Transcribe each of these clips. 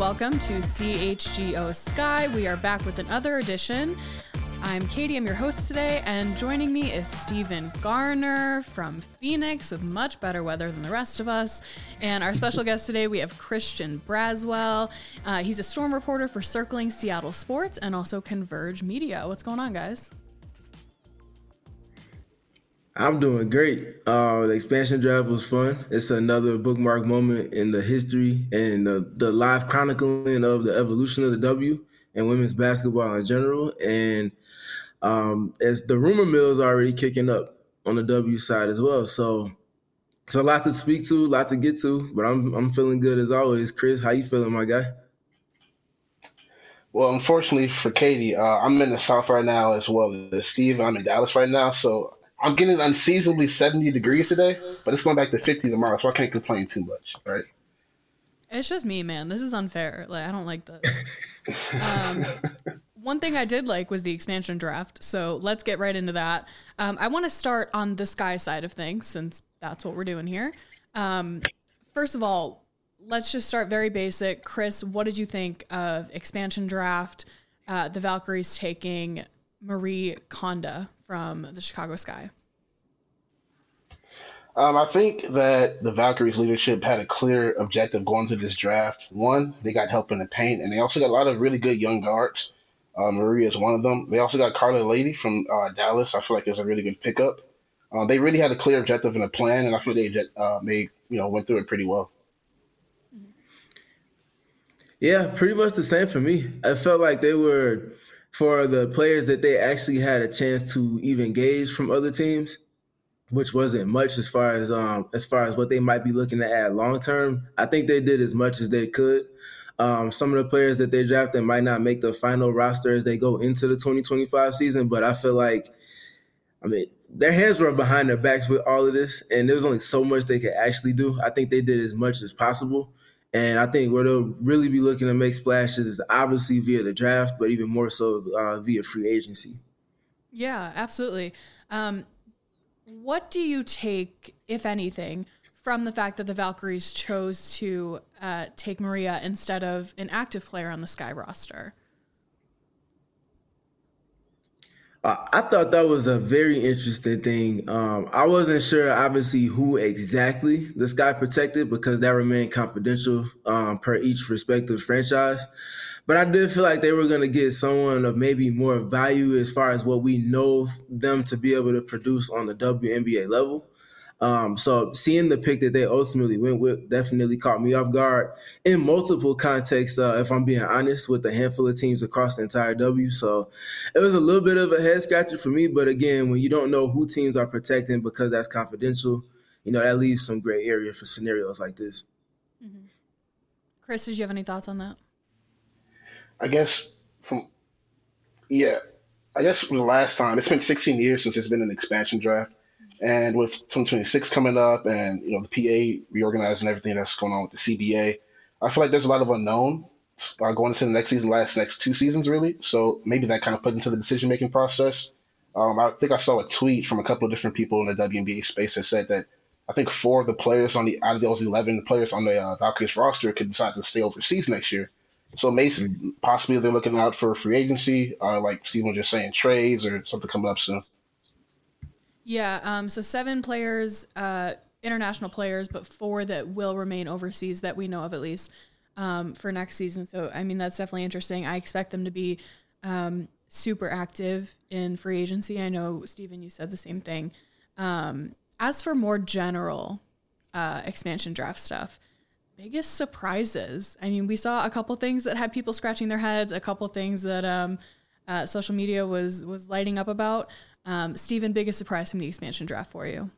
welcome to CHGO Sky. We are back with another edition. I'm Katie, I'm your host today, and joining me is Stephen Garner from Phoenix with much better weather than the rest of us. And our special guest today, we have Christian Braswell. He's a storm reporter for Circling Seattle Sports and also Converge Media. What's going on, guys? I'm doing great. The expansion draft was fun. It's another bookmark moment in the history and the live chronicling of the evolution of the W and women's basketball in general. And as the rumor mill is already kicking up on the W side as well. So it's a lot to speak to, a lot to get to, but I'm feeling good as always. Chris, how you feeling, my guy? Well, unfortunately for Katie, I'm in the South right now as well as Steve. I'm in Dallas right now, so I'm getting unseasonably 70 degrees today, but it's going back to 50 tomorrow, so I can't complain too much, right? It's just me, man. This is unfair. Like, I don't like this. One thing I did like was the expansion draft, so let's get right into that. I want to start on the Sky side of things, since that's what we're doing here. First of all, let's just start very basic. Chris, what did you think of expansion draft, the Valkyries taking Marie Konda from the Chicago Sky? I think that the Valkyries leadership had a clear objective going to this draft. One, they got help in the paint, and they also got a lot of really good young guards. Marie is one of them. They also got Carla Lady from Dallas. I feel like it's a really good pickup. They really had a clear objective and a plan, and I feel they went through it pretty well. Yeah, pretty much the same for me. I felt like they were, for the players that they actually had a chance to even gauge from other teams, which wasn't much as far as what they might be looking to add long term. I think they did as much as they could. Some of the players that they drafted might not make the final roster as they go into the 2025 season, but I feel like, their hands were behind their backs with all of this, and there was only so much they could actually do. I think they did as much as possible. And I think where they'll really be looking to make splashes is obviously via the draft, but even more so via free agency. Yeah, absolutely. What do you take, if anything, from the fact that the Valkyries chose to take Maria instead of an active player on the Sky roster? I thought that was a very interesting thing. I wasn't sure, obviously, who exactly the Sky protected because that remained confidential per each respective franchise. But I did feel like they were going to get someone of maybe more value as far as what we know them to be able to produce on the WNBA level. So seeing the pick that they ultimately went with definitely caught me off guard in multiple contexts, if I'm being honest, with a handful of teams across the entire W. So it was a little bit of a head scratcher for me. But again, when you don't know who teams are protecting because that's confidential, that leaves some gray area for scenarios like this. Mm-hmm. Chris, did you have any thoughts on that? I guess from the last time, it's been 16 years since there's been an expansion draft. And with 2026 coming up and, the PA reorganizing everything that's going on with the CBA, I feel like there's a lot of unknown going into the next season, next two seasons, really. So maybe that kind of put into the decision-making process. I think I saw a tweet from a couple of different people in the WNBA space that said that I think 4 of the players out of those 11 players on the Valkyries roster could decide to stay overseas next year. So maybe possibly they're looking out for free agency, like Stephen was just saying, trades or something coming up soon. Yeah, so 7 players, international players, but 4 that will remain overseas that we know of at least for next season. So, that's definitely interesting. I expect them to be super active in free agency. I know, Stephen, you said the same thing. As for more general expansion draft stuff, biggest surprises. We saw a couple things that had people scratching their heads, a couple things that social media was lighting up about. Stephen, biggest surprise from the expansion draft for you?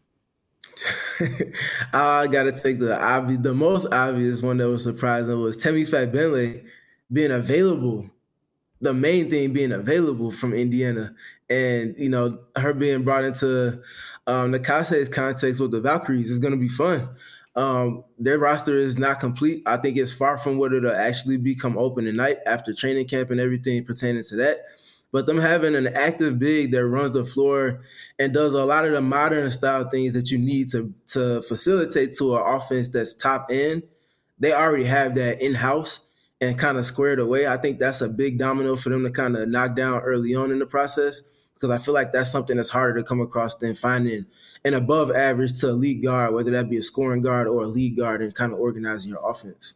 I got to take the most obvious one that was surprising was Temi Fabele being available. The main thing being available from Indiana, and her being brought into Nakase's context with the Valkyries is going to be fun. Their roster is not complete. I think it's far from what it'll actually become open tonight after training camp and everything pertaining to that. But them having an active big that runs the floor and does a lot of the modern style things that you need to facilitate to an offense that's top end, they already have that in-house. and kind of squared away, I think that's a big domino for them to kind of knock down early on in the process, because I feel like that's something that's harder to come across than finding an above average to elite guard, whether that be a scoring guard or a lead guard, and kind of organizing your offense.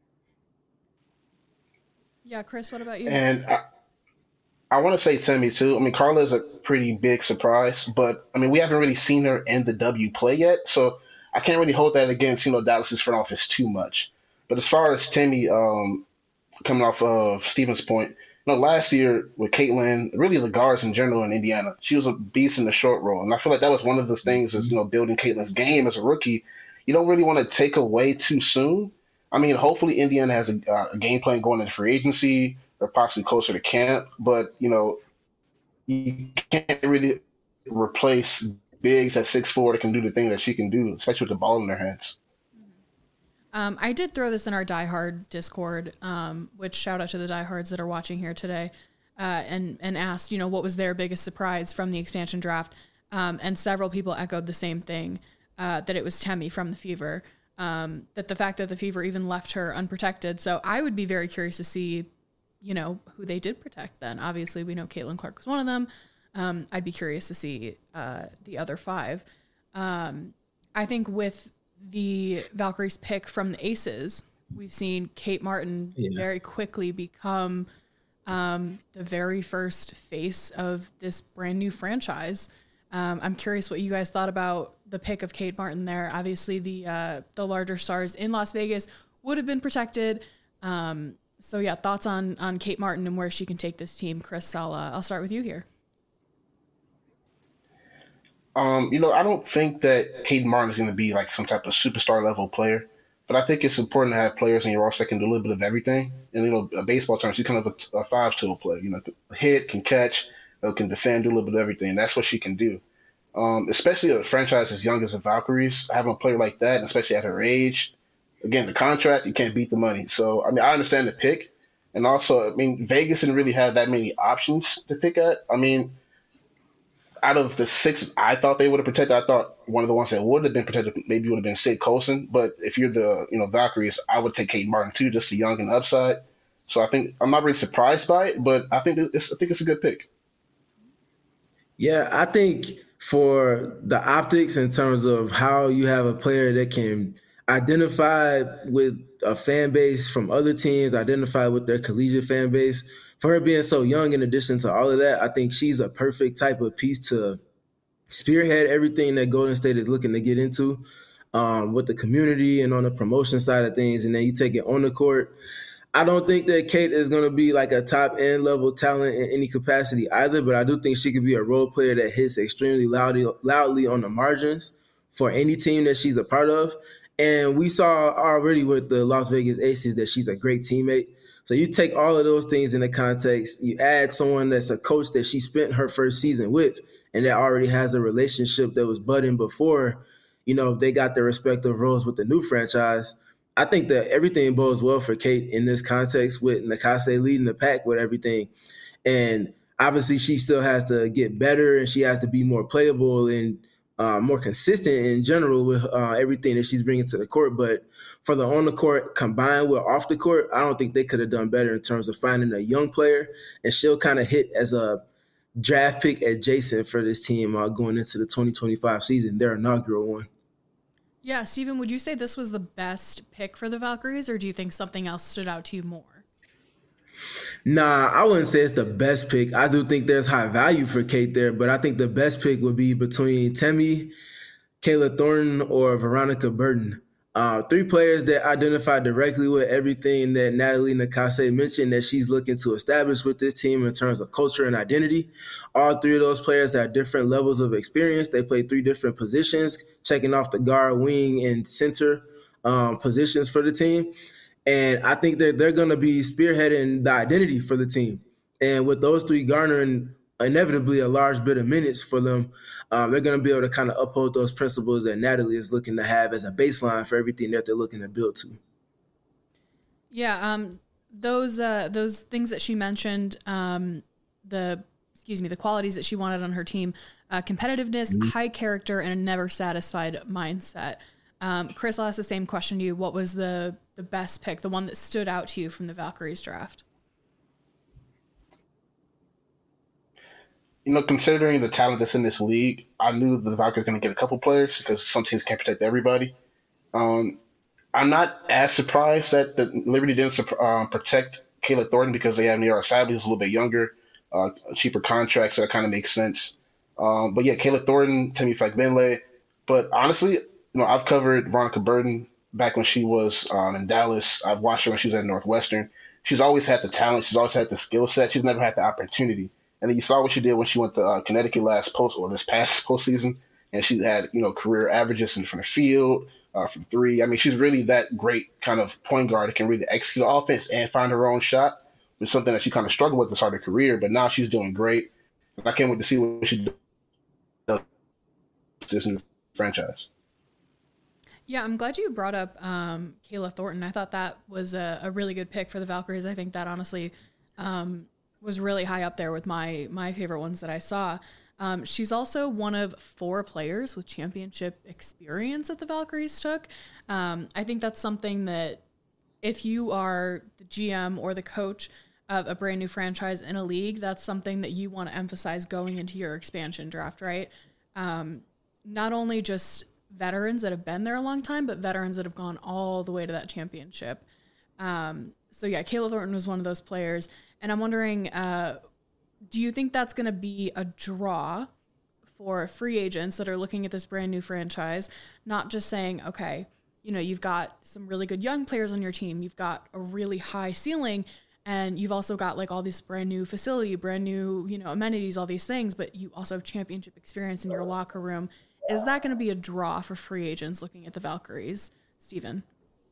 Yeah, Chris, what about you? And I want to say Timmy too. I mean, Carla's a pretty big surprise, but I mean, we haven't really seen her in the W play yet, so I can't really hold that against Dallas's front office too much. But as far as Timmy, coming off of Stevens' point, last year with Caitlin, really the guards in general in Indiana, she was a beast in the short roll, and I feel like that was one of the things is building Caitlin's game as a rookie. You don't really want to take away too soon. I mean, hopefully Indiana has a game plan going into free agency or possibly closer to camp, but you can't really replace bigs at 6'4" that can do the thing that she can do, especially with the ball in their hands. I did throw this in our Die Hard Discord, which shout out to the diehards that are watching here today, and asked, what was their biggest surprise from the expansion draft? And several people echoed the same thing, that it was Temi from the Fever, that the fact that the Fever even left her unprotected. So I would be very curious to see, who they did protect then. Obviously, we know Caitlin Clark was one of them. I'd be curious to see the other 5. I think with the Valkyries pick from the Aces, we've seen Kate Martin very quickly become the very first face of this brand new franchise. I'm curious what you guys thought about the pick of Kate Martin there. Obviously, the larger stars in Las Vegas would have been protected. So yeah, thoughts on Kate Martin and where she can take this team. Chris, I'll start with you here. I don't think that Kate Martin is going to be like some type of superstar level player, but I think it's important to have players in your roster that can do a little bit of everything. And baseball terms, she's kind of a 5-tool player. Hit, can catch, can defend, do a little bit of everything. That's what she can do. Especially a franchise as young as the Valkyries, having a player like that, especially at her age. Again, the contract, you can't beat the money. So I mean, I understand the pick, and also, I mean, Vegas didn't really have that many options to pick at. I mean, out of the 6 I thought they would have protected, I thought one of the ones that would have been protected maybe would have been Sid Colson. But if you're the Valkyries, I would take Kate Martin too, just the young and upside. So I think I'm not really surprised by it, but I think it's a good pick. Yeah, I think for the optics in terms of how you have a player that can identify with a fan base from other teams, identify with their collegiate fan base, for her being so young, in addition to all of that, I think she's a perfect type of piece to spearhead everything that Golden State is looking to get into with the community and on the promotion side of things. And then you take it on the court. I don't think that Kate is going to be like a top end level talent in any capacity either, but I do think she could be a role player that hits extremely loudly on the margins for any team that she's a part of. And we saw already with the Las Vegas Aces that she's a great teammate. So you take all of those things into context, you add someone that's a coach that she spent her first season with and that already has a relationship that was budding before, they got their respective roles with the new franchise. I think that everything bodes well for Kate in this context with Nakase leading the pack with everything. And obviously she still has to get better and she has to be more playable and more consistent in general with everything that she's bringing to the court. But for the on the court combined with off the court, I don't think they could have done better in terms of finding a young player. And she'll kind of hit as a draft pick adjacent for this team going into the 2025 season, their inaugural one. Yeah, Steven, would you say this was the best pick for the Valkyries, or do you think something else stood out to you more? Nah, I wouldn't say it's the best pick. I do think there's high value for Kate there, but I think the best pick would be between Temi, Kayla Thornton, or Veronica Burton. 3 players that identify directly with everything that Natalie Nakase mentioned that she's looking to establish with this team in terms of culture and identity. All 3 of those players have different levels of experience. They play 3 different positions, checking off the guard, wing, and center positions for the team. And I think that they're going to be spearheading the identity for the team. And with those 3 garnering inevitably a large bit of minutes for them, they're going to be able to kind of uphold those principles that Natalie is looking to have as a baseline for everything that they're looking to build to. Yeah, those things that she mentioned, the qualities that she wanted on her team, competitiveness, high character, and a never satisfied mindset. Chris, I'll ask the same question to you. What was the best pick, the one that stood out to you from the Valkyries draft? Considering the talent that's in this league, I knew the Valkyries were going to get a couple players because some teams can't protect everybody. Um, I'm not as surprised that the Liberty didn't protect Kayla Thornton because they have Nira Sadley, who's a little bit younger, a cheaper contract, so that kind of makes sense. But yeah, Kayla Thornton, Temi Fagbenle. But honestly, I've covered Veronica Burton back when she was in Dallas. I've watched her when she was at Northwestern. She's always had the talent. She's always had the skill set. She's never had the opportunity. And then you saw what she did when she went to Connecticut this past postseason, and she had career averages from the field, from three. I mean, she's really that great kind of point guard that can really execute the offense and find her own shot. It's something that she kind of struggled with to start her career, but now she's doing great. I can't wait to see what she does with this new franchise. Yeah, I'm glad you brought up Kayla Thornton. I thought that was a really good pick for the Valkyries. I think that honestly was really high up there with my favorite ones that I saw. She's also one of 4 players with championship experience that the Valkyries took. I think that's something that if you are the GM or the coach of a brand new franchise in a league, that's something that you want to emphasize going into your expansion draft, right? Not only just veterans that have been there a long time, but veterans that have gone all the way to that championship. So yeah, Kayla Thornton was one of those players. And I'm wondering, do you think that's going to be a draw for free agents that are looking at this brand new franchise, not just saying, okay, you've got some really good young players on your team, you've got a really high ceiling, and you've also got like all this brand new facility, brand new, amenities, all these things, but you also have championship experience in your locker room. Is that going to be a draw for free agents looking at the Valkyries, Steven?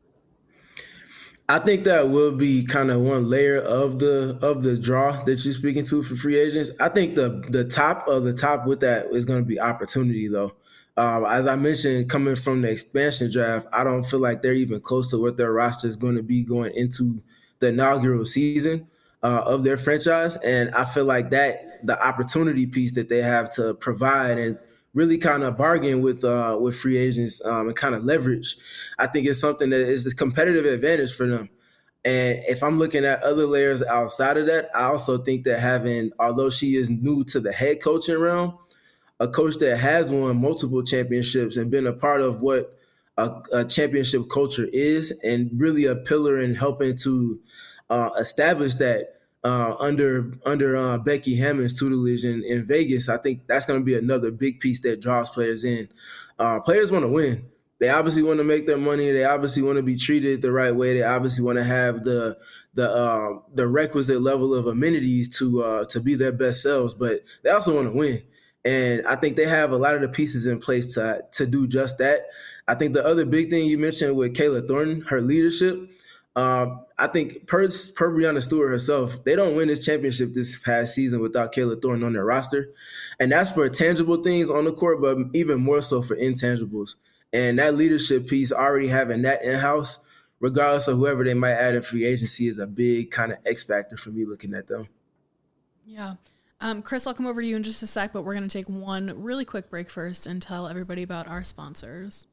I think that will be kind of one layer of the draw that you're speaking to for free agents. I think the top of the top with that is going to be opportunity, though. As I mentioned, coming from the expansion draft, I don't feel like they're even close to what their roster is going to be going into the inaugural season of their franchise. And I feel like that the opportunity piece that they have to provide and really kind of bargain with free agents and kind of leverage, I think it's something that is a competitive advantage for them. And if I'm looking at other layers outside of that, I also think that although she is new to the head coaching realm, a coach that has won multiple championships and been a part of what a championship culture is and really a pillar in helping to establish that under Becky Hammond's tutelage in Vegas, I think that's going to be another big piece that draws players in. Players want to win. They obviously want to make their money. They obviously want to be treated the right way. They obviously want to have the requisite level of amenities to be their best selves. But they also want to win, and I think they have a lot of the pieces in place to do just that. I think the other big thing you mentioned with Kayla Thornton, her leadership. I think per Breanna Stewart herself, they don't win this championship this past season without Kayla Thornton on their roster. And that's for tangible things on the court, but even more so for intangibles. And that leadership piece, already having that in-house, regardless of whoever they might add in free agency, is a big kind of X factor for me looking at them. Yeah. Chris, I'll come over to you in just a sec, but we're going to take one really quick break first and tell everybody about our sponsors.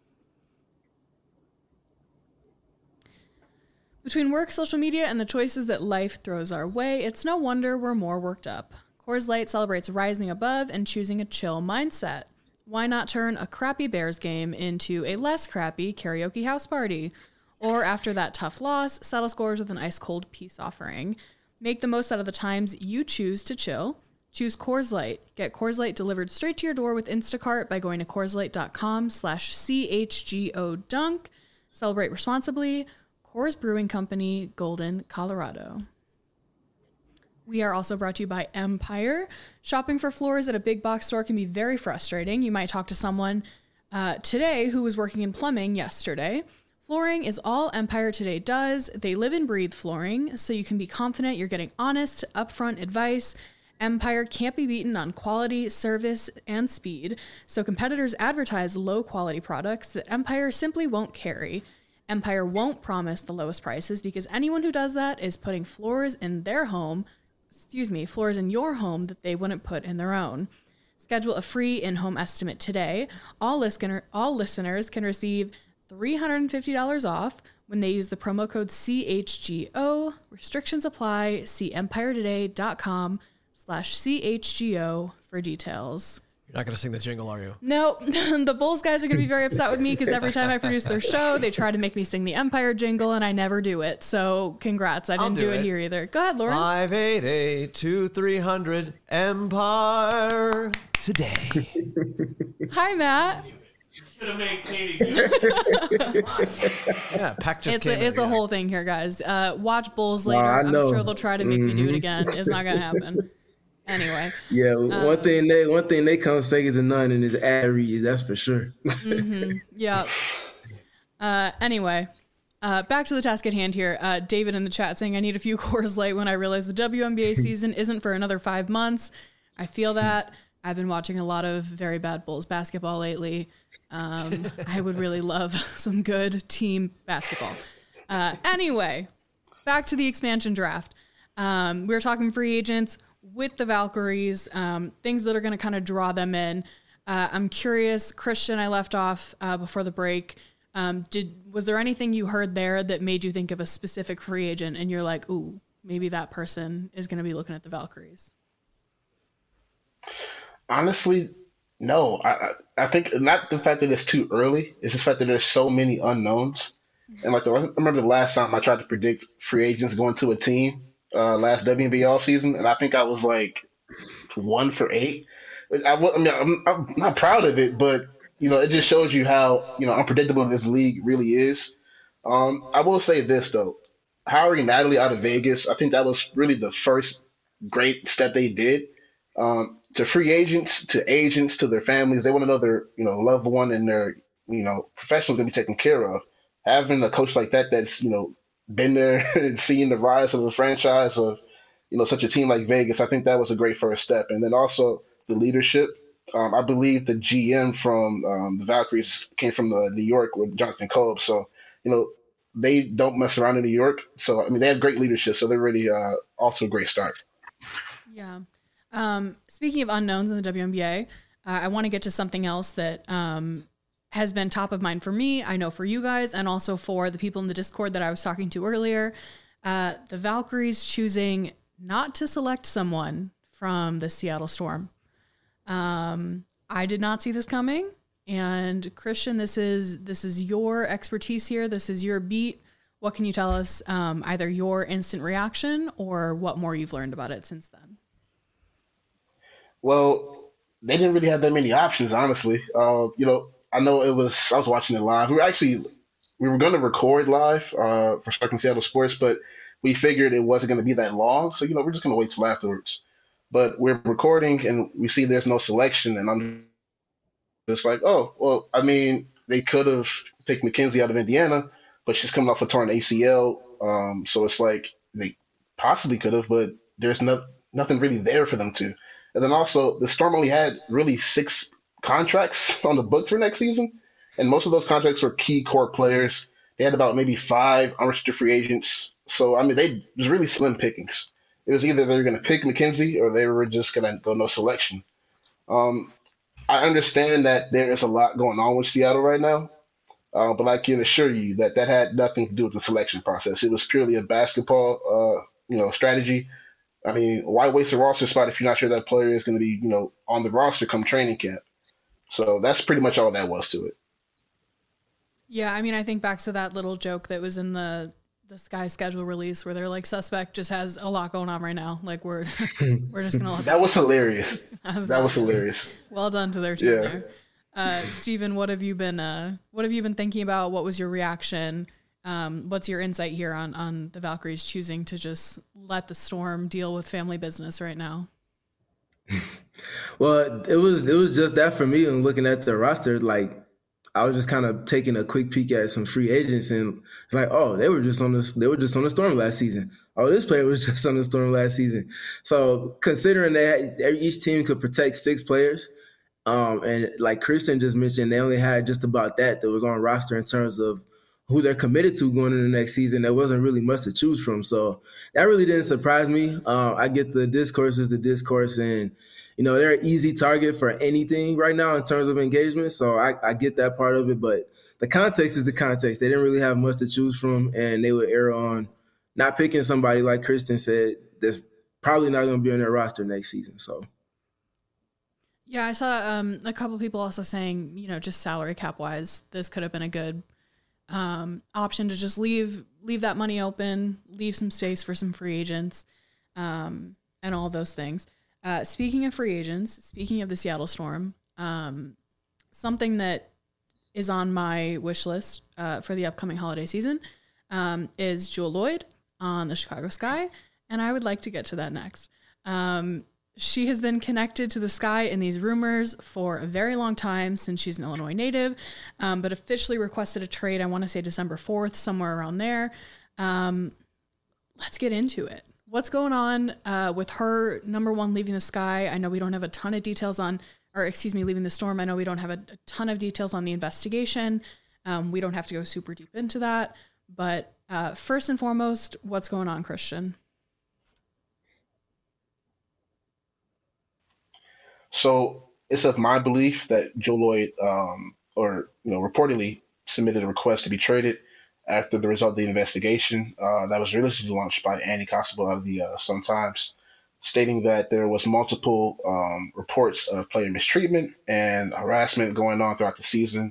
Between work, social media, and the choices that life throws our way, it's no wonder we're more worked up. Coors Light celebrates rising above and choosing a chill mindset. Why not turn a crappy Bears game into a less crappy karaoke house party? Or after that tough loss, settle scores with an ice-cold peace offering. Make the most out of the times you choose to chill. Choose Coors Light. Get Coors Light delivered straight to your door with Instacart by going to CoorsLight.com/CHGO-DUNK. Celebrate responsibly. Coors Brewing Company, Golden, Colorado. We are also brought to you by Empire. Shopping for floors at a big box store can be very frustrating. You might talk to someone today who was working in plumbing yesterday. Flooring is all Empire today does. They live and breathe flooring, so you can be confident you're getting honest, upfront advice. Empire can't be beaten on quality, service, and speed, so competitors advertise low-quality products that Empire simply won't carry. Empire won't promise the lowest prices because anyone who does that is putting floors in your home that they wouldn't put in their own. Schedule a free in-home estimate today. All listeners can receive $350 off when they use the promo code CHGO. Restrictions apply. See empiretoday.com/CHGO for details. You're not going to sing the jingle, are you? No, the Bulls guys are going to be very upset with me because every time I produce their show, they try to make me sing the Empire jingle, and I never do it. So congrats. I didn't do it here either. Go ahead, Lawrence. 588-2300 Empire Today. Hi, Matt. Should have made Katie do Yeah, Pac just It's a whole thing here, guys. Watch Bulls later. I'm sure they'll try to make me do it again. It's not going to happen. Anyway. Yeah, one thing they come second to none in is ad reads, that's for sure. Yeah. Anyway, back to the task at hand here. David in the chat saying, I need a few Coors Light when I realize the WNBA season isn't for another 5 months. I feel that. I've been watching a lot of very bad Bulls basketball lately. I would really love some good team basketball. Anyway, back to the expansion draft. We were talking free agents with the Valkyries, things that are going to kind of draw them in. I'm curious, Christian, I left off before the break. Was there anything you heard there that made you think of a specific free agent and you're like, ooh, maybe that person is going to be looking at the Valkyries? Honestly, no. I think not the fact that it's too early. It's the fact that there's so many unknowns. And I remember the last time I tried to predict free agents going to a team last WNBA offseason, and I think I was like 1 for 8. I'm not proud of it, but it just shows you how unpredictable this league really is. I will say this though, hiring Natalie out of Vegas, I think that was really the first great step they did. To free agents, to agents, to their families, they want to know their loved one and their professionals going to be taken care of. Having a coach like that that's been there and seen the rise of a franchise of such a team like Vegas, I think that was a great first step. And then also the leadership. I believe the GM from the Valkyries came from New York with Jonathan Kolb, so they don't mess around in New York. So they have great leadership, so they're really off to a great start. Yeah. Speaking of unknowns in the WNBA, I want to get to something else that has been top of mind for me, I know for you guys, and also for the people in the Discord that I was talking to earlier. The Valkyries choosing not to select someone from the Seattle Storm. I did not see this coming. And Christian, this is your expertise here. This is your beat. What can you tell us, either your instant reaction or what more you've learned about it since then? Well, they didn't really have that many options, honestly. I know I was watching it live. We were going to record live for Sparking Seattle Sports, but we figured it wasn't going to be that long. So, we're just going to wait till afterwards. But we're recording and we see there's no selection. And I'm just like, oh, well, they could have picked Mackenzie out of Indiana, but she's coming off a torn ACL. So it's like they possibly could have, but there's nothing really there for them to. And then also, the Storm only had really 6 contracts on the books for next season, and most of those contracts were key core players. They had about maybe 5 unrestricted free agents. So, it was really slim pickings. It was either they were going to pick Mackenzie or they were just going to go no selection. I understand that there is a lot going on with Seattle right now, but I can assure you that had nothing to do with the selection process. It was purely a basketball, strategy. Why waste a roster spot if you're not sure that player is going to be, on the roster come training camp? So that's pretty much all that was to it. Yeah, I think back to that little joke that was in the Sky schedule release where they're like, suspect just has a lot going on right now. Like we're just gonna let that was hilarious. That was hilarious. Well done to their team there. Steven, what have you been thinking about? What was your reaction? What's your insight here on the Valkyries choosing to just let the Storm deal with family business right now? Well, it was just that for me. And looking at the roster, like I was just kind of taking a quick peek at some free agents, and it's like, oh, they were just on the Storm last season. Oh, this player was just on the Storm last season. So considering that each team could protect 6 players, and like Christian just mentioned, they only had just about that was on roster in terms of who they're committed to going into the next season. There wasn't really much to choose from. So that really didn't surprise me. I get the discourse is the discourse, and they're an easy target for anything right now in terms of engagement. So I get that part of it, but the context is the context. They didn't really have much to choose from, and they would err on not picking somebody, like Kristen said, that's probably not going to be on their roster next season. So, yeah, I saw a couple people also saying, just salary cap wise, this could have been a good option to just leave that money open, leave some space for some free agents, and all those things. Speaking of free agents, speaking of the Seattle Storm, something that is on my wish list for the upcoming holiday season is Jewell Loyd on the Chicago Sky, and I would like to get to that next. She has been connected to the Sky in these rumors for a very long time, since she's an Illinois native, but officially requested a trade, I want to say December 4th, somewhere around there. Let's get into it. What's going on with her, number one, leaving the Sky? I know we don't have a ton of details leaving the Storm. I know we don't have a ton of details on the investigation. We don't have to go super deep into that. But first and foremost, what's going on, Christian? So it's of my belief that Jewell Loyd, reportedly submitted a request to be traded after the result of the investigation that was recently launched by Andy Constable out of the Sun-Times, stating that there was multiple reports of player mistreatment and harassment going on throughout the season.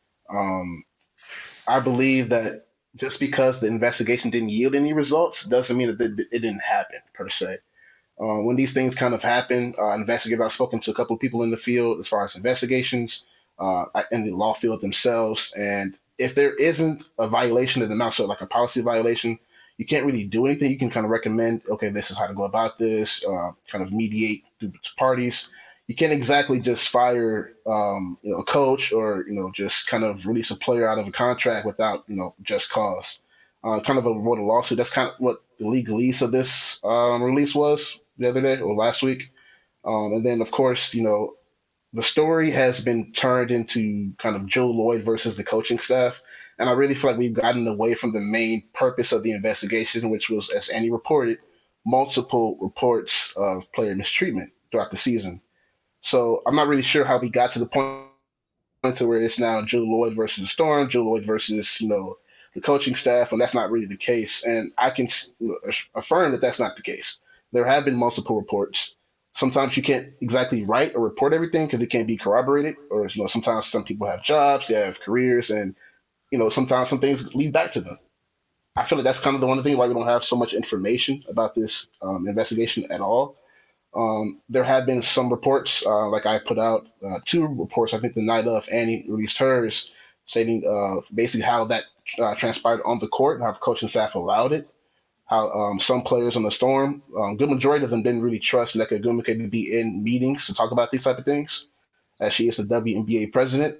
I believe that just because the investigation didn't yield any results doesn't mean that it didn't happen, per se. When these things kind of happen, investigators, I've spoken to a couple of people in the field as far as investigations in the law field themselves. And if there isn't a violation of the amount, so like a policy violation, you can't really do anything. You can kind of recommend, okay, this is how to go about this, kind of mediate through parties. You can't exactly just fire, a coach or, just kind of release a player out of a contract without, just cause. Kind of avoid a lawsuit. That's kind of what the legalese of this release was the other day or last week. And then, of course, the story has been turned into kind of Jewell Loyd versus the coaching staff. And I really feel like we've gotten away from the main purpose of the investigation, which was, as Andy reported, multiple reports of player mistreatment throughout the season. So I'm not really sure how we got to the point to where it's now Jewell Loyd versus the Storm, Jewell Loyd versus, the coaching staff, and that's not really the case. And I can affirm that that's not the case. There have been multiple reports. Sometimes you can't exactly write or report everything because it can't be corroborated, or sometimes some people have jobs, they have careers, and sometimes some things lead back to them. I feel like that's kind of the one thing why we don't have so much information about this investigation at all. There have been some reports, like I put out 2 reports, I think the night of Annie released hers, stating basically how that transpired on the court, how the coaching staff allowed it, how some players on the Storm, good majority of them didn't really trust Nneka Ogwumike to be in meetings to talk about these type of things, as she is the WNBA president.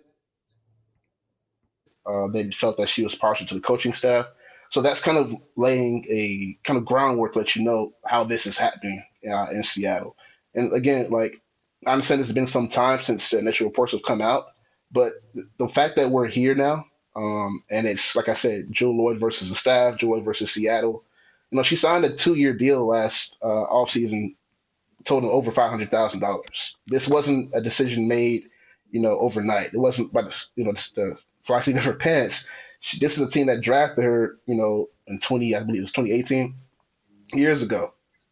They felt that she was partial to the coaching staff. So that's kind of laying a kind of groundwork to let you know how this is happening in Seattle. And again, like, I understand it's been some time since the initial reports have come out, but the fact that we're here now, and it's, like I said, Jewell Loyd versus the staff, Jewell Loyd versus Seattle. She signed a 2-year deal last offseason, totaling over $500,000. This wasn't a decision made, overnight. It wasn't by the fly seat of her pants. This is a team that drafted her, in I believe it was 2018, years ago.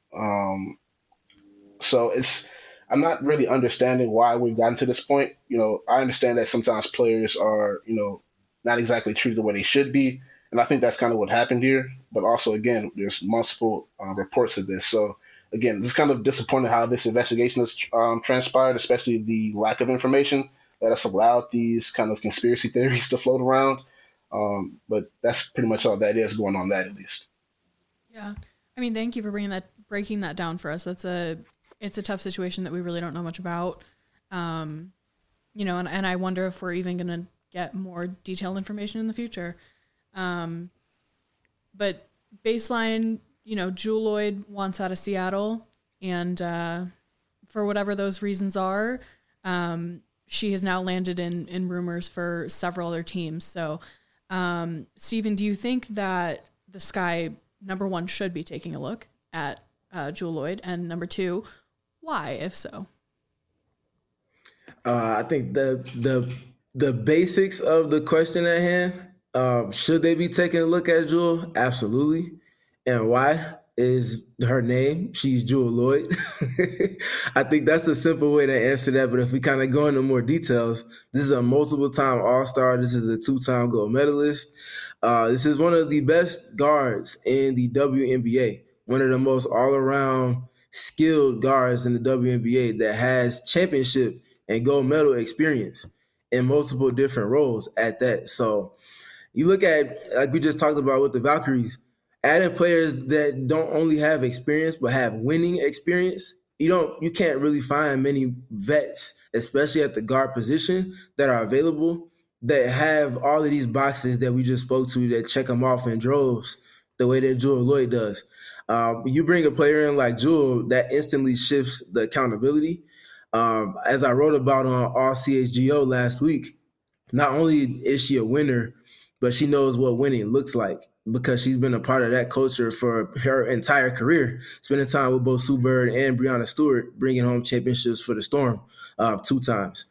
So I'm not really understanding why we've gotten to this point. I understand that sometimes players are, not exactly treated the way they should be. And I think that's kind of what happened here. But also, again, there's multiple reports of this. So, again, it's kind of disappointing how this investigation has transpired, especially the lack of information that has allowed these kind of conspiracy theories to float around. But that's pretty much all that is going on, that at least. Yeah. I mean, thank you for breaking that down for us. It's a tough situation that we really don't know much about. And I wonder if we're even going to get more detailed information in the future. But baseline, Jewell Loyd wants out of Seattle, and for whatever those reasons are, she has now landed in rumors for several other teams. So, Stephen, do you think that the Sky, number one, should be taking a look at Jewell Loyd, and number two, why, if so? I think the basics of the question at hand, should they be taking a look at Jewel? Absolutely. And why is her name? She's Jewel Lloyd. I think that's the simple way to answer that. But if we kind of go into more details, this is a multiple-time All-Star. This is a 2-time gold medalist. This is one of the best guards in the WNBA, one of the most all-around skilled guards in the WNBA that has championship and gold medal experience in multiple different roles at that. So you look at, like we just talked about with the Valkyries, adding players that don't only have experience but have winning experience. You can't really find many vets, especially at the guard position, that are available that have all of these boxes that we just spoke to that check them off in droves the way that Jewel Lloyd does. You bring a player in like Jewel, that instantly shifts the accountability. As I wrote about on All CHGO last week, not only is she a winner, but she knows what winning looks like because she's been a part of that culture for her entire career, spending time with both Sue Bird and Breanna Stewart, bringing home championships for the Storm 2 times.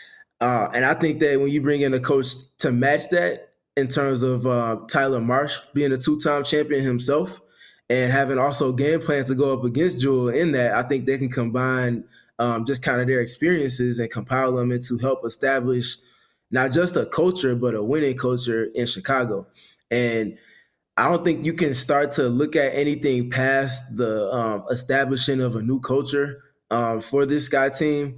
And I think that when you bring in a coach to match that in terms of Tyler Marsh being a 2-time champion himself and having also game plan to go up against Jewel in that, I think they can combine just kind of their experiences and compile them into help establish not just a culture, but a winning culture in Chicago. And I don't think you can start to look at anything past the establishing of a new culture for this Sky team.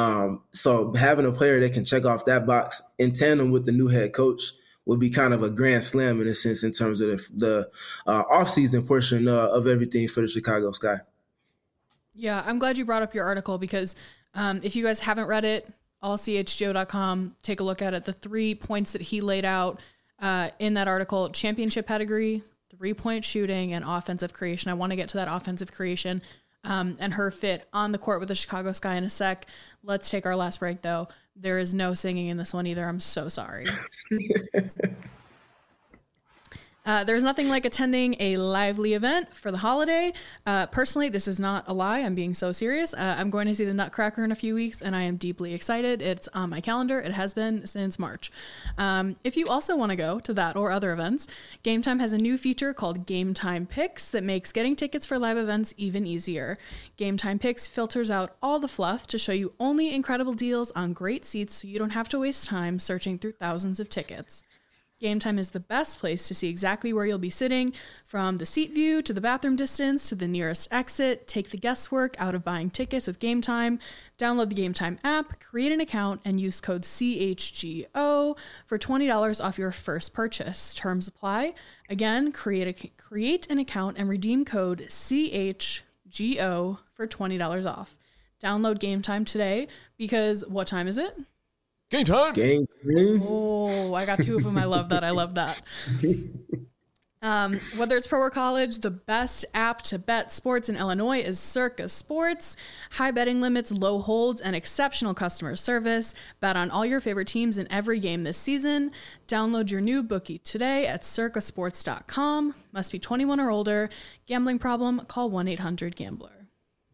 So having a player that can check off that box in tandem with the new head coach would be kind of a grand slam in a sense in terms of the offseason portion of everything for the Chicago Sky. Yeah, I'm glad you brought up your article because if you guys haven't read it, allchgo.com, take a look at it. The 3 points that he laid out in that article: championship pedigree, 3-point shooting, and offensive creation. I want to get to that offensive creation and her fit on the court with the Chicago Sky in a sec. Let's take our last break, though. There is no singing in this one either. I'm so sorry. There's nothing like attending a lively event for the holiday. Personally, this is not a lie. I'm being so serious. I'm going to see the Nutcracker in a few weeks, and I am deeply excited. It's on my calendar. It has been since March. If you also want to go to that or other events, Game Time has a new feature called Game Time Picks that makes getting tickets for live events even easier. Game Time Picks filters out all the fluff to show you only incredible deals on great seats so you don't have to waste time searching through thousands of tickets. Game Time is the best place to see exactly where you'll be sitting, from the seat view to the bathroom distance to the nearest exit. Take the guesswork out of buying tickets with Game Time. Download the Game Time app, create an account, and use code CHGO for $20 off your first purchase. Terms apply. Again, create an account and redeem code CHGO for $20 off. Download Game Time today because what time is it? Game time. Game time. Oh, I got 2 of them. I love that. I love that. Whether it's pro or college, the best app to bet sports in Illinois is Circa Sports. High betting limits, low holds, and exceptional customer service. Bet on all your favorite teams in every game this season. Download your new bookie today at circasports.com. Must be 21 or older. Gambling problem? Call 1-800-GAMBLER.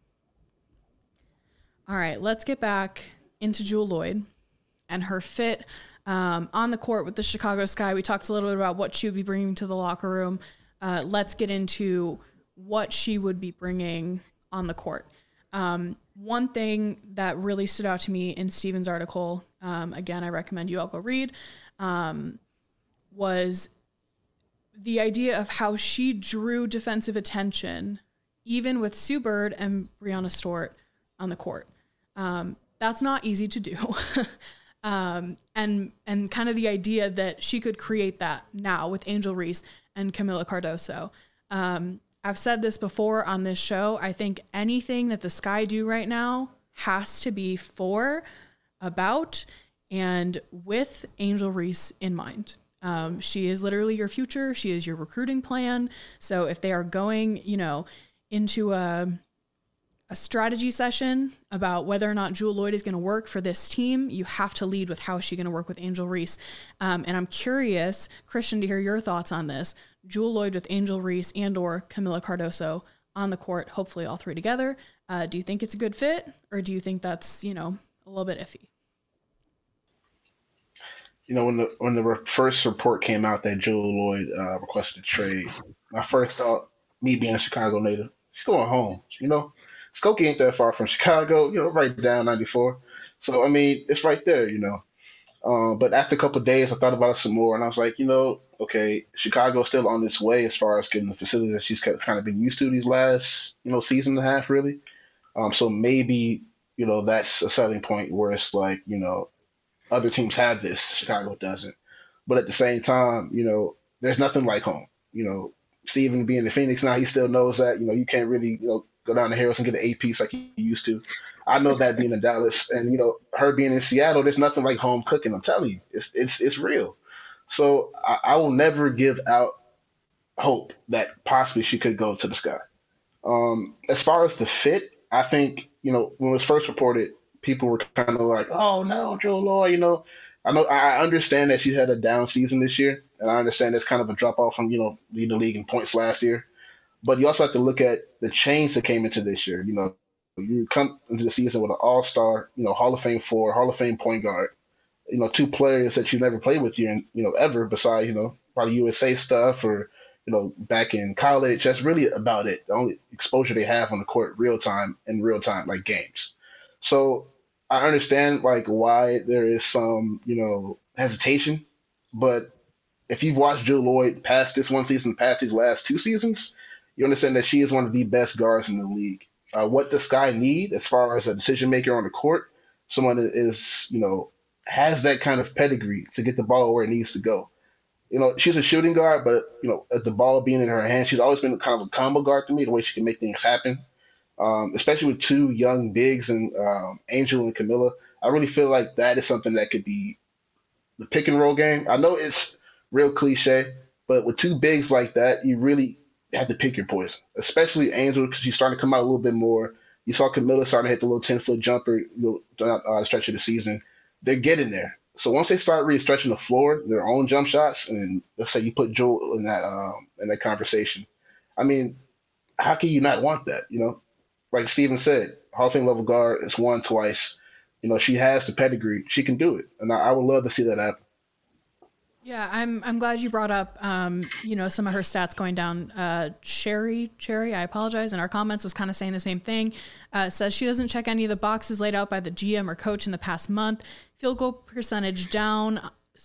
All right, let's get back into Jewel Lloyd and her fit on the court with the Chicago Sky. We talked a little bit about what she would be bringing to the locker room. Let's get into what she would be bringing on the court. One thing that really stood out to me in Steven's article, again, I recommend you all go read, was the idea of how she drew defensive attention, even with Sue Bird and Breanna Stewart on the court. That's not easy to do. And kind of the idea that she could create that now with Angel Reese and Kamilla Cardoso. I've said this before on this show. I think anything that the Sky do right now has to be for, about, and with Angel Reese in mind. She is literally your future. She is your recruiting plan. So if they are going, into a strategy session about whether or not Jewel Lloyd is going to work for this team, you have to lead with how is she going to work with Angel Reese. And I'm curious, Christian, to hear your thoughts on this. Jewel Lloyd with Angel Reese and or Kamilla Cardoso on the court, hopefully all 3 together. Do you think it's a good fit, or do you think that's, a little bit iffy? when the first report came out that Joe Lloyd requested a trade, my first thought, me being a Chicago native, she's going home. Skokie ain't that far from Chicago. Right down 94. So I mean, it's right there. But after a couple of days, I thought about it some more, and I was like, okay, Chicago's still on its way as far as getting the facility that she's kind of been used to these last, season and a half, really. So maybe, that's a selling point where it's like, other teams have this, Chicago doesn't. But at the same time, there's nothing like home. Steven being in Phoenix now, he still knows that, you can't really, go down to Harris and get an eight-piece like you used to. I know that being in Dallas and, her being in Seattle, there's nothing like home cooking. I'm telling you, it's real. So I will never give out hope that possibly she could go to the Sky. As far as the fit, I think, when it was first reported, people were kind of like, oh no, Joe Lloyd, I understand that she had a down season this year, and I understand it's kind of a drop off from, leading the league in points last year. But you also have to look at the change that came into this year. You come into the season with an all-star, Hall of Fame Hall of Fame point guard, two players that you never played with you, ever besides, probably USA stuff or, back in college. That's really about it. The only exposure they have on the court real time, like games. So I understand like why there is some, hesitation, but if you've watched Jill Lloyd past this one season, past these last two seasons, you understand that she is one of the best guards in the league. What the Sky need as far as a decision maker on the court, someone that is, has that kind of pedigree to get the ball where it needs to go. She's a shooting guard, but, at the ball being in her hands, she's always been kind of a combo guard to me, the way she can make things happen. Especially with two young bigs and Angel and Camilla. I really feel like that is something that could be the pick and roll game. I know it's real cliche, but with two bigs like that, you really have to pick your poison, especially Angel because she's starting to come out a little bit more. You saw Camilla starting to hit the little 10-foot jumper stretch of the season. They're getting there. So once they start really stretching the floor, their own jump shots, and let's say you put Joel in that conversation. I mean, how can you not want that? Like Steven said, Hall of Fame level guard is won twice. She has the pedigree. She can do it, and I would love to see that happen. Yeah, I'm glad you brought up, some of her stats going down. Cherry, I apologize, in our comments was kind of saying the same thing. Says she doesn't check any of the boxes laid out by the GM or coach in the past month. Field goal percentage down,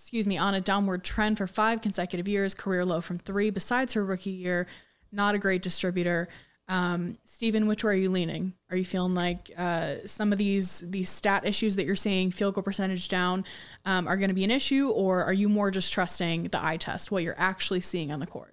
on a downward trend for 5 consecutive years. Career low from 3. Besides her rookie year, not a great distributor. Steven, which way are you leaning? Are you feeling like some of these stat issues that you're seeing, field goal percentage down, are going to be an issue, or are you more just trusting the eye test, what you're actually seeing on the court?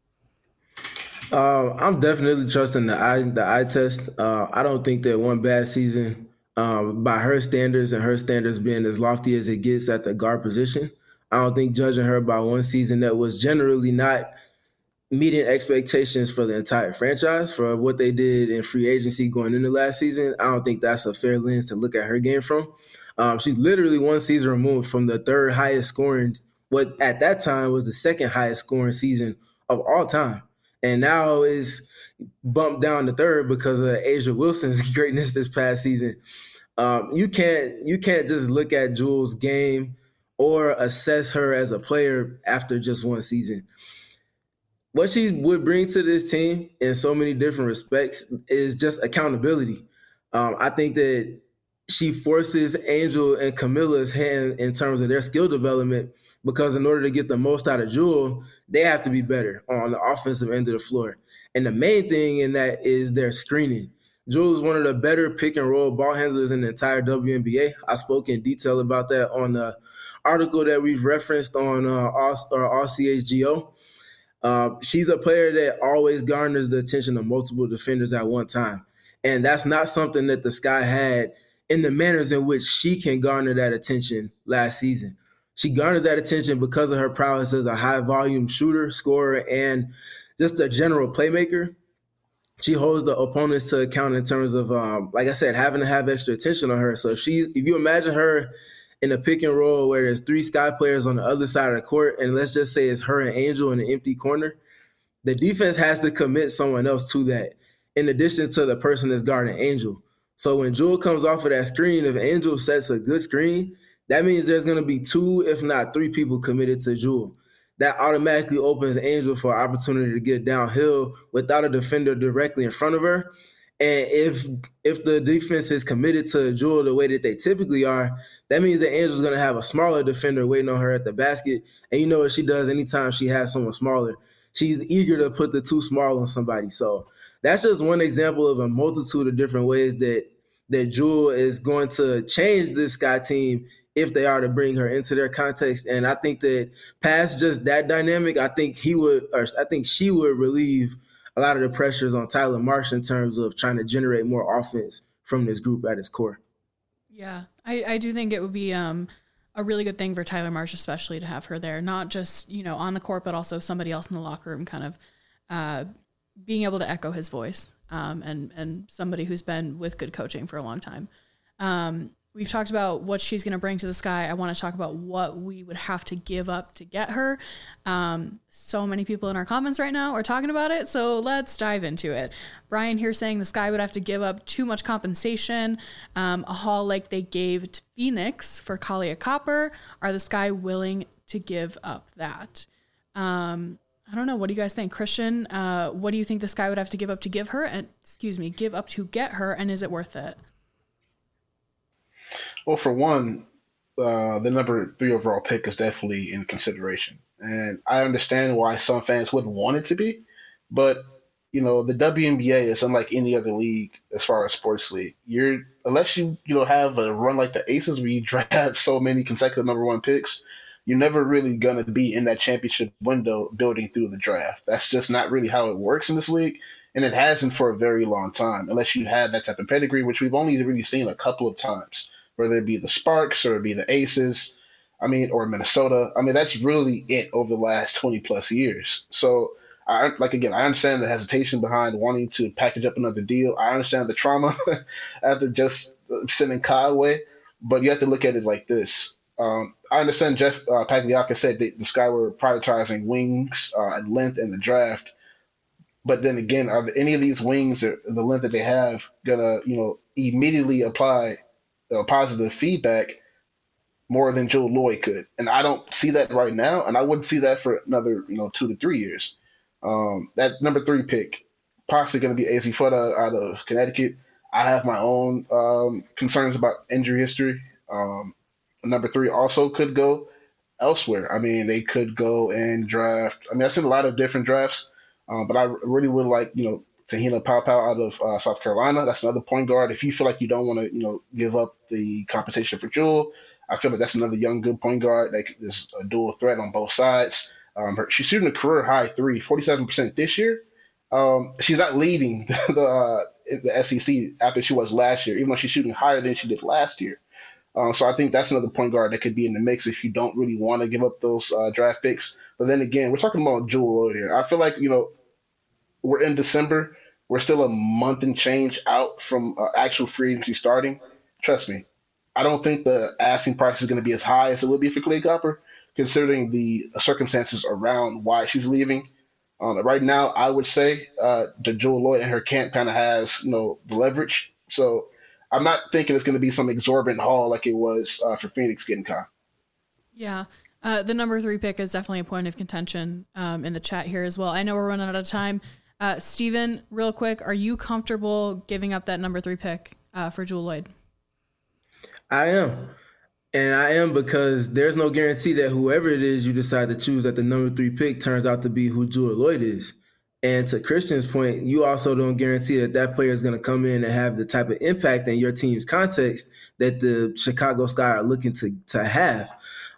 I'm definitely trusting the eye test. I don't think that one bad season, by her standards and her standards being as lofty as it gets at the guard position, I don't think judging her by one season that was generally not meeting expectations for the entire franchise for what they did in free agency going into last season, I don't think that's a fair lens to look at her game from. She's literally one season removed from the third highest scoring, what at that time was the second highest scoring season of all time. And now is bumped down to third because of A'ja Wilson's greatness this past season. You can't just look at Jewel's game or assess her as a player after just one season. What she would bring to this team in so many different respects is just accountability. I think that she forces Angel and Camilla's hand in terms of their skill development because in order to get the most out of Jewel, they have to be better on the offensive end of the floor. And the main thing in that is their screening. Jewel is one of the better pick and roll ball handlers in the entire WNBA. I spoke in detail about that on the article that we've referenced on RCHGO. She's a player that always garners the attention of multiple defenders at one time. And that's not something that the Sky had in the manners in which she can garner that attention last season. She garners that attention because of her prowess as a high-volume shooter, scorer, and just a general playmaker. She holds the opponents to account in terms of, like I said, having to have extra attention on her. So if you imagine her in a pick and roll where there's 3 Sky players on the other side of the court, and let's just say it's her and Angel in an empty corner, the defense has to commit someone else to that, in addition to the person that's guarding Angel. So when Jewel comes off of that screen, if Angel sets a good screen, that means there's going to be 2, if not 3 people committed to Jewel. That automatically opens Angel for an opportunity to get downhill without a defender directly in front of her. And if the defense is committed to Jewel the way that they typically are, that means that Angel's going to have a smaller defender waiting on her at the basket. And you know what she does anytime she has someone smaller. She's eager to put the too small on somebody. So that's just one example of a multitude of different ways that Jewel is going to change this Sky team if they are to bring her into their context. And I think that past just that dynamic, I think she would relieve a lot of the pressures on Tyler Marsh in terms of trying to generate more offense from this group at its core. Yeah, I do think it would be a really good thing for Tyler Marsh, especially to have her there, not just, on the court, but also somebody else in the locker room kind of being able to echo his voice and somebody who's been with good coaching for a long time. We've talked about what she's going to bring to the Sky. I want to talk about what we would have to give up to get her. So many people in our comments right now are talking about it, so let's dive into it. Brian here saying the Sky would have to give up too much compensation, a haul like they gave to Phoenix for Kahleah Copper. Are the Sky willing to give up that? I don't know. What do you guys think? Christian, what do you think the Sky would have to give up to give up to get her, and is it worth it? Well, for one, the number 3 overall pick is definitely in consideration. And I understand why some fans wouldn't want it to be, but the WNBA is unlike any other league as far as sports league. Unless you have a run like the Aces where you draft so many consecutive number 1 picks, you're never really gonna be in that championship window building through the draft. That's just not really how it works in this league, and it hasn't for a very long time, unless you have that type of pedigree, which we've only really seen a couple of times, whether it be the Sparks or it be the Aces, or Minnesota. That's really it over the last 20 plus years. So, I understand the hesitation behind wanting to package up another deal. I understand the trauma after just sending Kai away, but you have to look at it like this. I understand Jeff Pagliacca said that the Sky were prioritizing wings and length in the draft, but then again, are any of these wings or the length that they have gonna, immediately apply positive feedback more than Jewell Loyd could? And I don't see that right now, and I wouldn't see that for another 2 to 3 years. That number 3 pick, possibly going to be Azzi Fudd out of Connecticut. I have my own concerns about injury history. Number 3 also could go elsewhere. They could go and draft. I've seen a lot of different drafts, but I really would like, Tahina Paopao out of South Carolina. That's another point guard. If you feel like you don't want to, give up the compensation for Jewell, I feel like that's another young, good point guard that is a dual threat on both sides. She's shooting a career high 47% this year. She's not leading the SEC after she was last year, even though she's shooting higher than she did last year. So I think that's another point guard that could be in the mix if you don't really want to give up those draft picks. But then again, we're talking about Jewell Loyd here. I feel like, we're in December. We're still a month and change out from actual free agency starting. Trust me, I don't think the asking price is going to be as high as it would be for Kahleah Copper, considering the circumstances around why she's leaving. Right now, I would say the Jewell Loyd and her camp kind of has, the leverage. So I'm not thinking it's going to be some exorbitant haul like it was for Phoenix getting Kai. Yeah. The number 3 pick is definitely a point of contention in the chat here as well. I know we're running out of time. Steven, real quick, are you comfortable giving up that number 3 pick for Jewell Loyd? I am. And I am because there's no guarantee that whoever it is you decide to choose at the number 3 pick turns out to be who Jewell Loyd is. And to Christian's point, you also don't guarantee that that player is going to come in and have the type of impact in your team's context that the Chicago Sky are looking to have.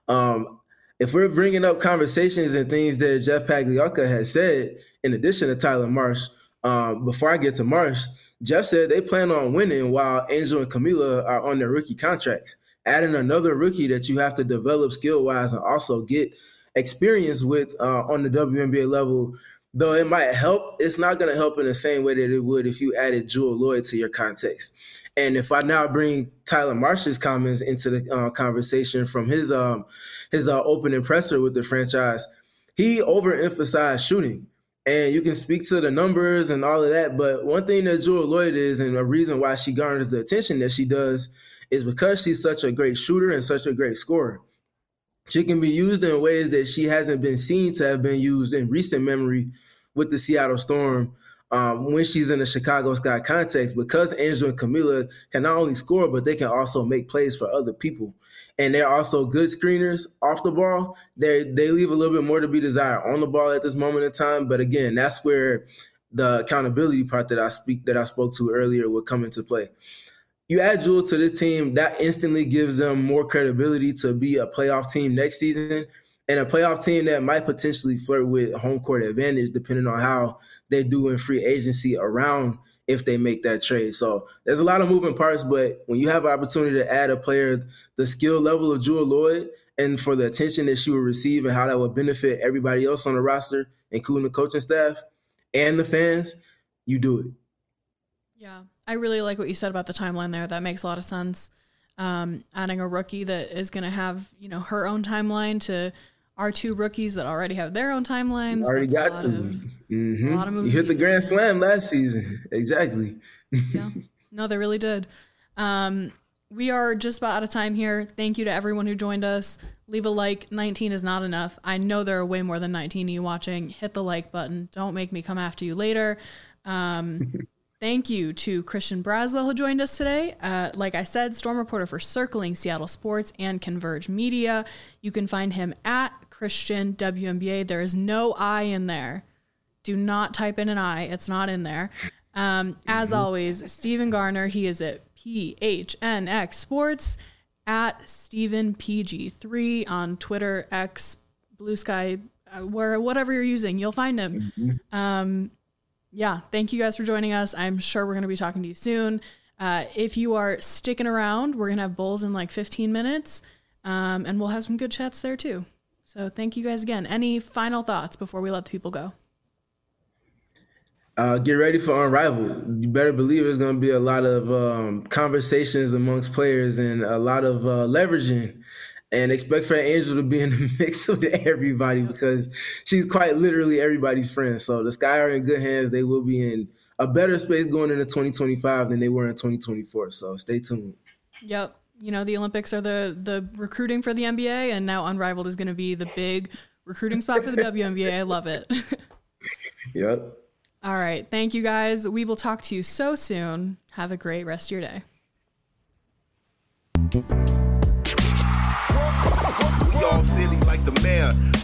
If we're bringing up conversations and things that Jeff Pagliacca has said, in addition to Tyler Marsh, before I get to Marsh, Jeff said they plan on winning while Angel and Camila are on their rookie contracts. Adding another rookie that you have to develop skill-wise and also get experience with on the WNBA level, though it might help, it's not going to help in the same way that it would if you added Jewell Loyd to your context. And if I now bring Tyler Marsh's comments into the conversation from his opening presser with the franchise, he overemphasized shooting. And you can speak to the numbers and all of that, but one thing that Jewell Loyd is, and a reason why she garners the attention that she does, is because she's such a great shooter and such a great scorer. She can be used in ways that she hasn't been seen to have been used in recent memory with the Seattle Storm when she's in the Chicago Sky context, because Angel and Camila can not only score, but they can also make plays for other people. And they're also good screeners off the ball. They leave a little bit more to be desired on the ball at this moment in time. But again, that's where the accountability part that I spoke to earlier would come into play. You add Jewel to this team, that instantly gives them more credibility to be a playoff team next season, and a playoff team that might potentially flirt with home court advantage depending on how they do in free agency around if they make that trade. So there's a lot of moving parts, but when you have an opportunity to add a player the skill level of Jewel Lloyd and for the attention that she would receive and how that would benefit everybody else on the roster, including the coaching staff and the fans, you do it. Yeah, I really like what you said about the timeline there. That makes a lot of sense. Adding a rookie that is going to have, her own timeline to our two rookies that already have their own timelines. Already got to. A lot of moving pieces. You hit the Grand Slam last season. Exactly. Yeah. No, they really did. We are just about out of time here. Thank you to everyone who joined us. Leave a like. 19 is not enough. I know there are way more than 19 of you watching. Hit the like button. Don't make me come after you later. Thank you to Christian Braswell who joined us today. Like I said, Storm reporter for Circling Seattle Sports and Converge Media. You can find him at Christian WNBA. There is no I in there. Do not type in an I. It's not in there. As always, Stephen Garner, he is at PHNX Sports, at StephenPG3 on Twitter, X, Blue Sky, whatever you're using, you'll find him. Yeah, thank you guys for joining us. I'm sure we're going to be talking to you soon. If you are sticking around, we're going to have Bulls in like 15 minutes, and we'll have some good chats there too. So thank you guys again. Any final thoughts before we let the people go? Get ready for Unrivaled. You better believe there's going to be a lot of conversations amongst players and a lot of leveraging. And expect for Angel to be in the mix with everybody because she's quite literally everybody's friend. So the Sky are in good hands. They will be in a better space going into 2025 than they were in 2024. So stay tuned. Yep. The Olympics are the recruiting for the NBA, and now Unrivaled is going to be the big recruiting spot for the WNBA. I love it. Yep. All right. Thank you, guys. We will talk to you so soon. Have a great rest of your day. Y'all silly like the mayor.